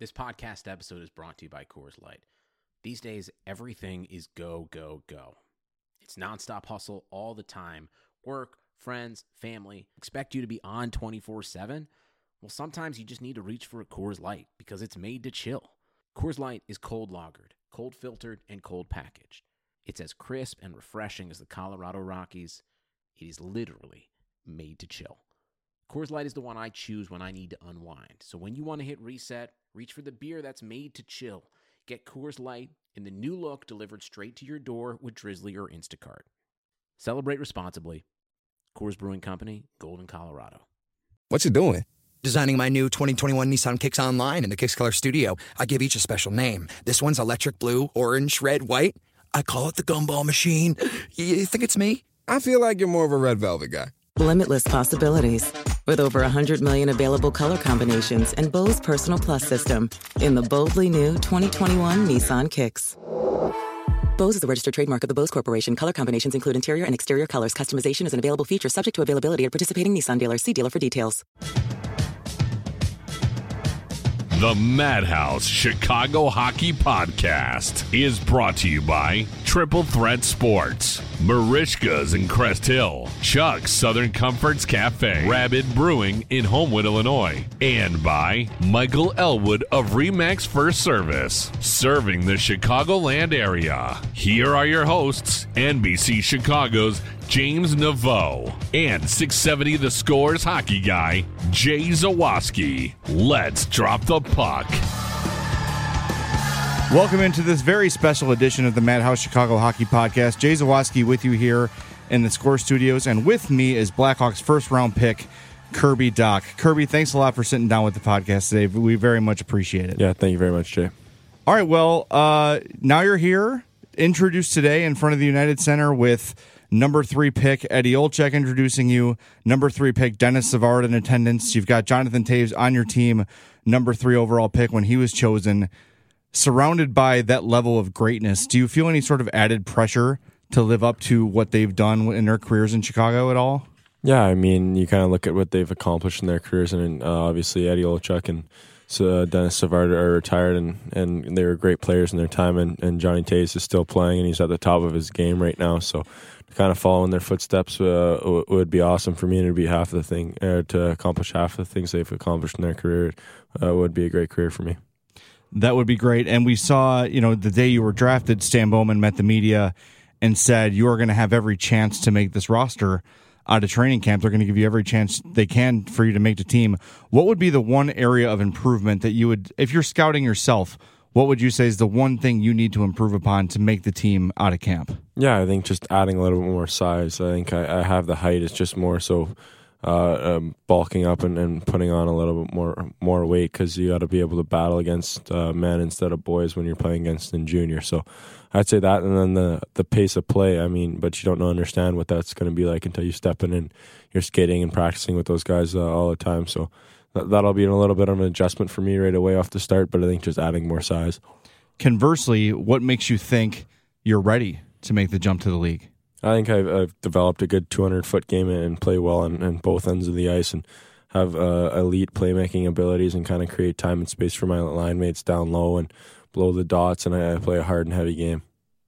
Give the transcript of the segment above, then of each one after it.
This podcast episode is brought to you by Coors Light. These days, everything is go, go, go. It's nonstop hustle all the time. Work, friends, family, expect you to be on 24/7. Well, sometimes you just need to reach for a Coors Light because it's made to chill. Coors Light is cold lagered, cold filtered, and cold packaged. It's as crisp and refreshing as the Colorado Rockies. It is literally made to chill. Coors Light is the one I choose when I need to unwind. So when you want to hit reset, reach for the beer that's made to chill. Get Coors Light in the new look delivered straight to your door with Drizzly or Instacart. Celebrate responsibly. Coors Brewing Company, Golden, Colorado. What you doing? Designing my new 2021 Nissan Kicks Online in the Kicks Color Studio. I give each a special name. This one's electric blue, orange, red, white. I call it the Gumball Machine. You think it's me? I feel like you're more of a red velvet guy. Limitless possibilities. With over 100 million available color combinations and Bose Personal Plus system in the boldly new 2021 Nissan Kicks. Bose is the registered trademark of the Bose Corporation. Color combinations include interior and exterior colors. Customization is an available feature subject to availability at participating Nissan dealers. See dealer for details. The Madhouse Chicago Hockey Podcast is brought to you by Triple Threat Sports, Marishka's in Crest Hill, Chuck's Southern Comforts Cafe, Rabbit Brewing in Homewood, Illinois, and by Michael Elwood of Remax First Service, serving the Chicagoland area. Here are your hosts, NBC Chicago's James Naveau and 670 The Scores hockey guy, Jay Zawaski. Let's drop the puck. Welcome into this very special edition of the Madhouse Chicago Hockey Podcast. Jay Zawaski with you here in the Score Studios, and with me is Blackhawks first-round pick Kirby Dach. Kirby, thanks a lot for sitting down with the podcast today. We very much appreciate it. Yeah, thank you very much, Jay. All right, well, now you're here, introduced today in front of the United Center with number 3 pick Eddie Olczyk introducing you, number 3 pick Dennis Savard in attendance. You've got Jonathan Toews on your team, number 3 overall pick when he was chosen. Surrounded by that level of greatness, do you feel any sort of added pressure to live up to what they've done in their careers in Chicago at all? Yeah, I mean, you kind of look at what they've accomplished in their careers, and obviously Eddie Olczyk and Dennis Savard are retired, and they were great players in their time, and Johnny Toews is still playing, and he's at the top of his game right now, so to kind of follow in their footsteps would be awesome for me, and it would be half the thing, to accomplish half the things they've accomplished in their career would be a great career for me. That would be great. And we saw, the day you were drafted, Stan Bowman met the media and said you are going to have every chance to make this roster out of training camp. They're going to give you every chance they can for you to make the team. What would be the one area of improvement that you would, if you're scouting yourself, what would you say is the one thing you need to improve upon to make the team out of camp? Yeah, I think just adding a little bit more size. I think I have the height. It's just more so bulking up and putting on a little bit more weight, because you got to be able to battle against men instead of boys when you're playing against in junior. So I'd say that, and then the pace of play. I mean, but you don't understand what that's going to be like until you step in and you're skating and practicing with those guys all the time. So that'll be a little bit of an adjustment for me right away off the start, but I think just adding more size. Conversely, what makes you think you're ready to make the jump to the league? I think I've developed a good 200-foot game and play well on both ends of the ice, and have elite playmaking abilities, and kind of create time and space for my line mates down low and blow the dots, and I play a hard and heavy game.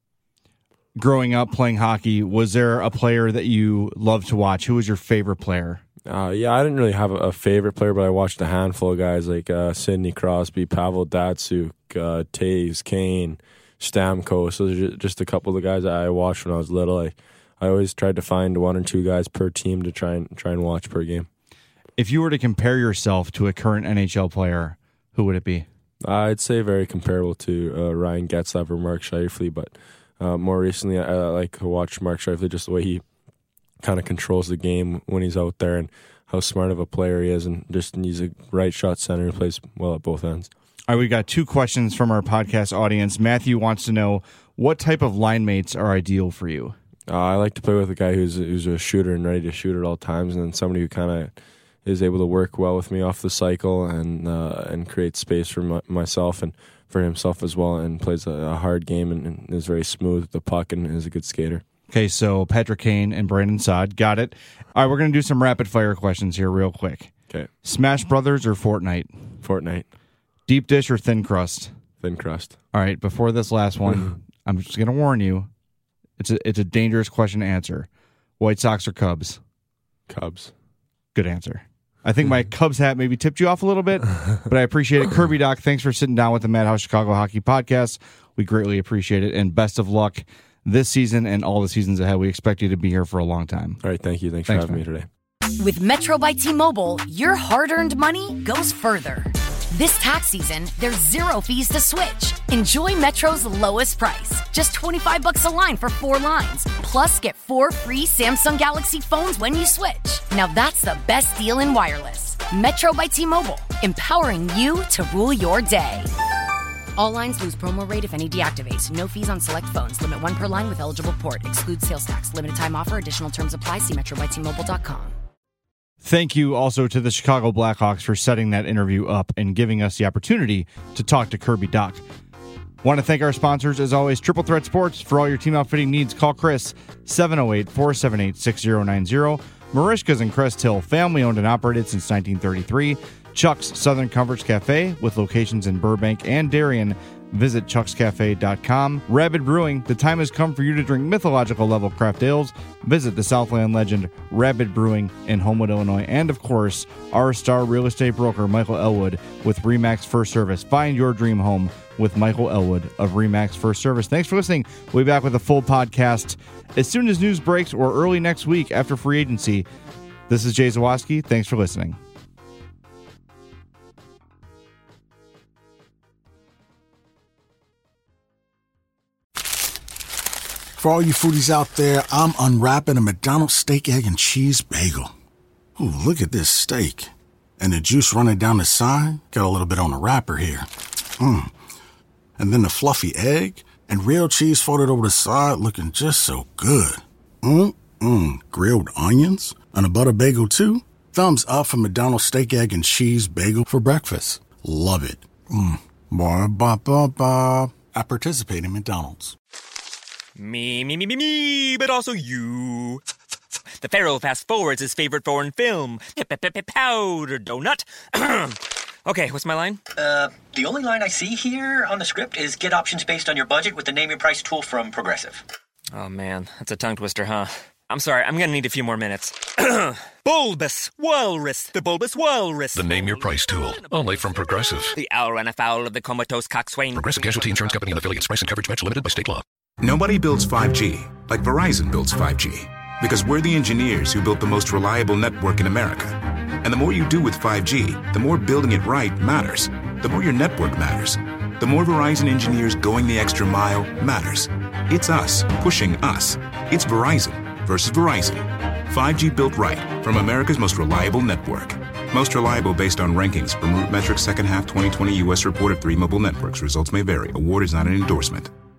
Growing up playing hockey, was there a player that you loved to watch? Who was your favorite player? Yeah, I didn't really have a favorite player, but I watched a handful of guys like Sidney Crosby, Pavel Datsyuk, Toews, Kane, Stamkos. Those are just a couple of the guys that I watched when I was little. I always tried to find 1 or 2 guys per team to try and watch per game. If you were to compare yourself to a current NHL player, who would it be? I'd say very comparable to Ryan Getzlaf or Mark Scheifele, but more recently I like to watch Mark Scheifele, just the way he kind of controls the game when he's out there, and how smart of a player he is, and he's a right shot center who plays well at both ends. All right, we got 2 questions from our podcast audience. Matthew wants to know, what type of line mates are ideal for you? I like to play with a guy who's a shooter and ready to shoot at all times, and then somebody who kind of is able to work well with me off the cycle and create space for myself and for himself as well, and plays a hard game and is very smooth with the puck and is a good skater. Okay, so Patrick Kane and Brandon Saad. Got it. All right, we're going to do some rapid-fire questions here real quick. Okay. Smash Brothers or Fortnite? Fortnite. Deep dish or thin crust? Thin crust. All right, before this last one, I'm just going to warn you. It's a dangerous question to answer. White Sox or Cubs? Cubs. Good answer. I think my Cubs hat maybe tipped you off a little bit, but I appreciate it. Kirby Doc, thanks for sitting down with the Madhouse Chicago Hockey Podcast. We greatly appreciate it, and best of luck this season and all the seasons ahead. We expect you to be here for a long time. All right, thank you. Thanks for having me today. With Metro by T-Mobile, your hard-earned money goes further. This tax season, there's 0 fees to switch. Enjoy Metro's lowest price, just $25 a line for 4 lines. Plus, get 4 free Samsung Galaxy phones when you switch. Now that's the best deal in wireless. Metro by T-Mobile, empowering you to rule your day. All lines lose promo rate if any deactivates. No fees on select phones. Limit 1 per line with eligible port. Excludes sales tax. Limited time offer. Additional terms apply. See metrobytmobile.com. Thank you also to the Chicago Blackhawks for setting that interview up and giving us the opportunity to talk to Kirby Doc. Want to thank our sponsors, as always, Triple Threat Sports. For all your team outfitting needs, call Chris, 708-478-6090. Marishka's in Crest Hill, family-owned and operated since 1933. Chuck's Southern Comforts Cafe, with locations in Burbank and Darien. Visit chuckscafe.com. Rabid Brewing, the time has come for you to drink mythological level craft ales. Visit the Southland legend Rabid Brewing in Homewood, Illinois. And, of course, our star real estate broker, Michael Elwood, with RE/MAX First Service. Find your dream home with Michael Elwood of RE/MAX First Service. Thanks for listening. We'll be back with a full podcast as soon as news breaks or early next week after free agency. This is Jay Zawaski. Thanks for listening. For all you foodies out there, I'm unwrapping a McDonald's steak, egg, and cheese bagel. Ooh, look at this steak. And the juice running down the side. Got a little bit on the wrapper here. And then the fluffy egg and real cheese folded over the side, looking just so good. Grilled onions and a butter bagel too. Thumbs up for McDonald's steak, egg, and cheese bagel for breakfast. Love it. Ba-ba-ba-ba. I participate in McDonald's. Me, but also you. The Pharaoh fast forwards his favorite foreign film, Powder Donut. Okay, what's my line? The only line I see here on the script is get options based on your budget with the Name Your Price tool from Progressive. Oh man, that's a tongue twister, huh? I'm sorry, I'm gonna need a few more minutes. Bulbous Walrus, the Bulbous Walrus. The Name Your Price tool, only from Progressive. The owl ran afoul of the comatose coxswain. Progressive Casualty Insurance Company and affiliates. Price and coverage match limited by state law. Nobody builds 5G like Verizon builds 5G. Because we're the engineers who built the most reliable network in America. And the more you do with 5G, the more building it right matters. The more your network matters. The more Verizon engineers going the extra mile matters. It's us pushing us. It's Verizon versus Verizon. 5G built right from America's most reliable network. Most reliable based on rankings from RootMetrics second half 2020 U.S. report of 3 mobile networks. Results may vary. Award is not an endorsement.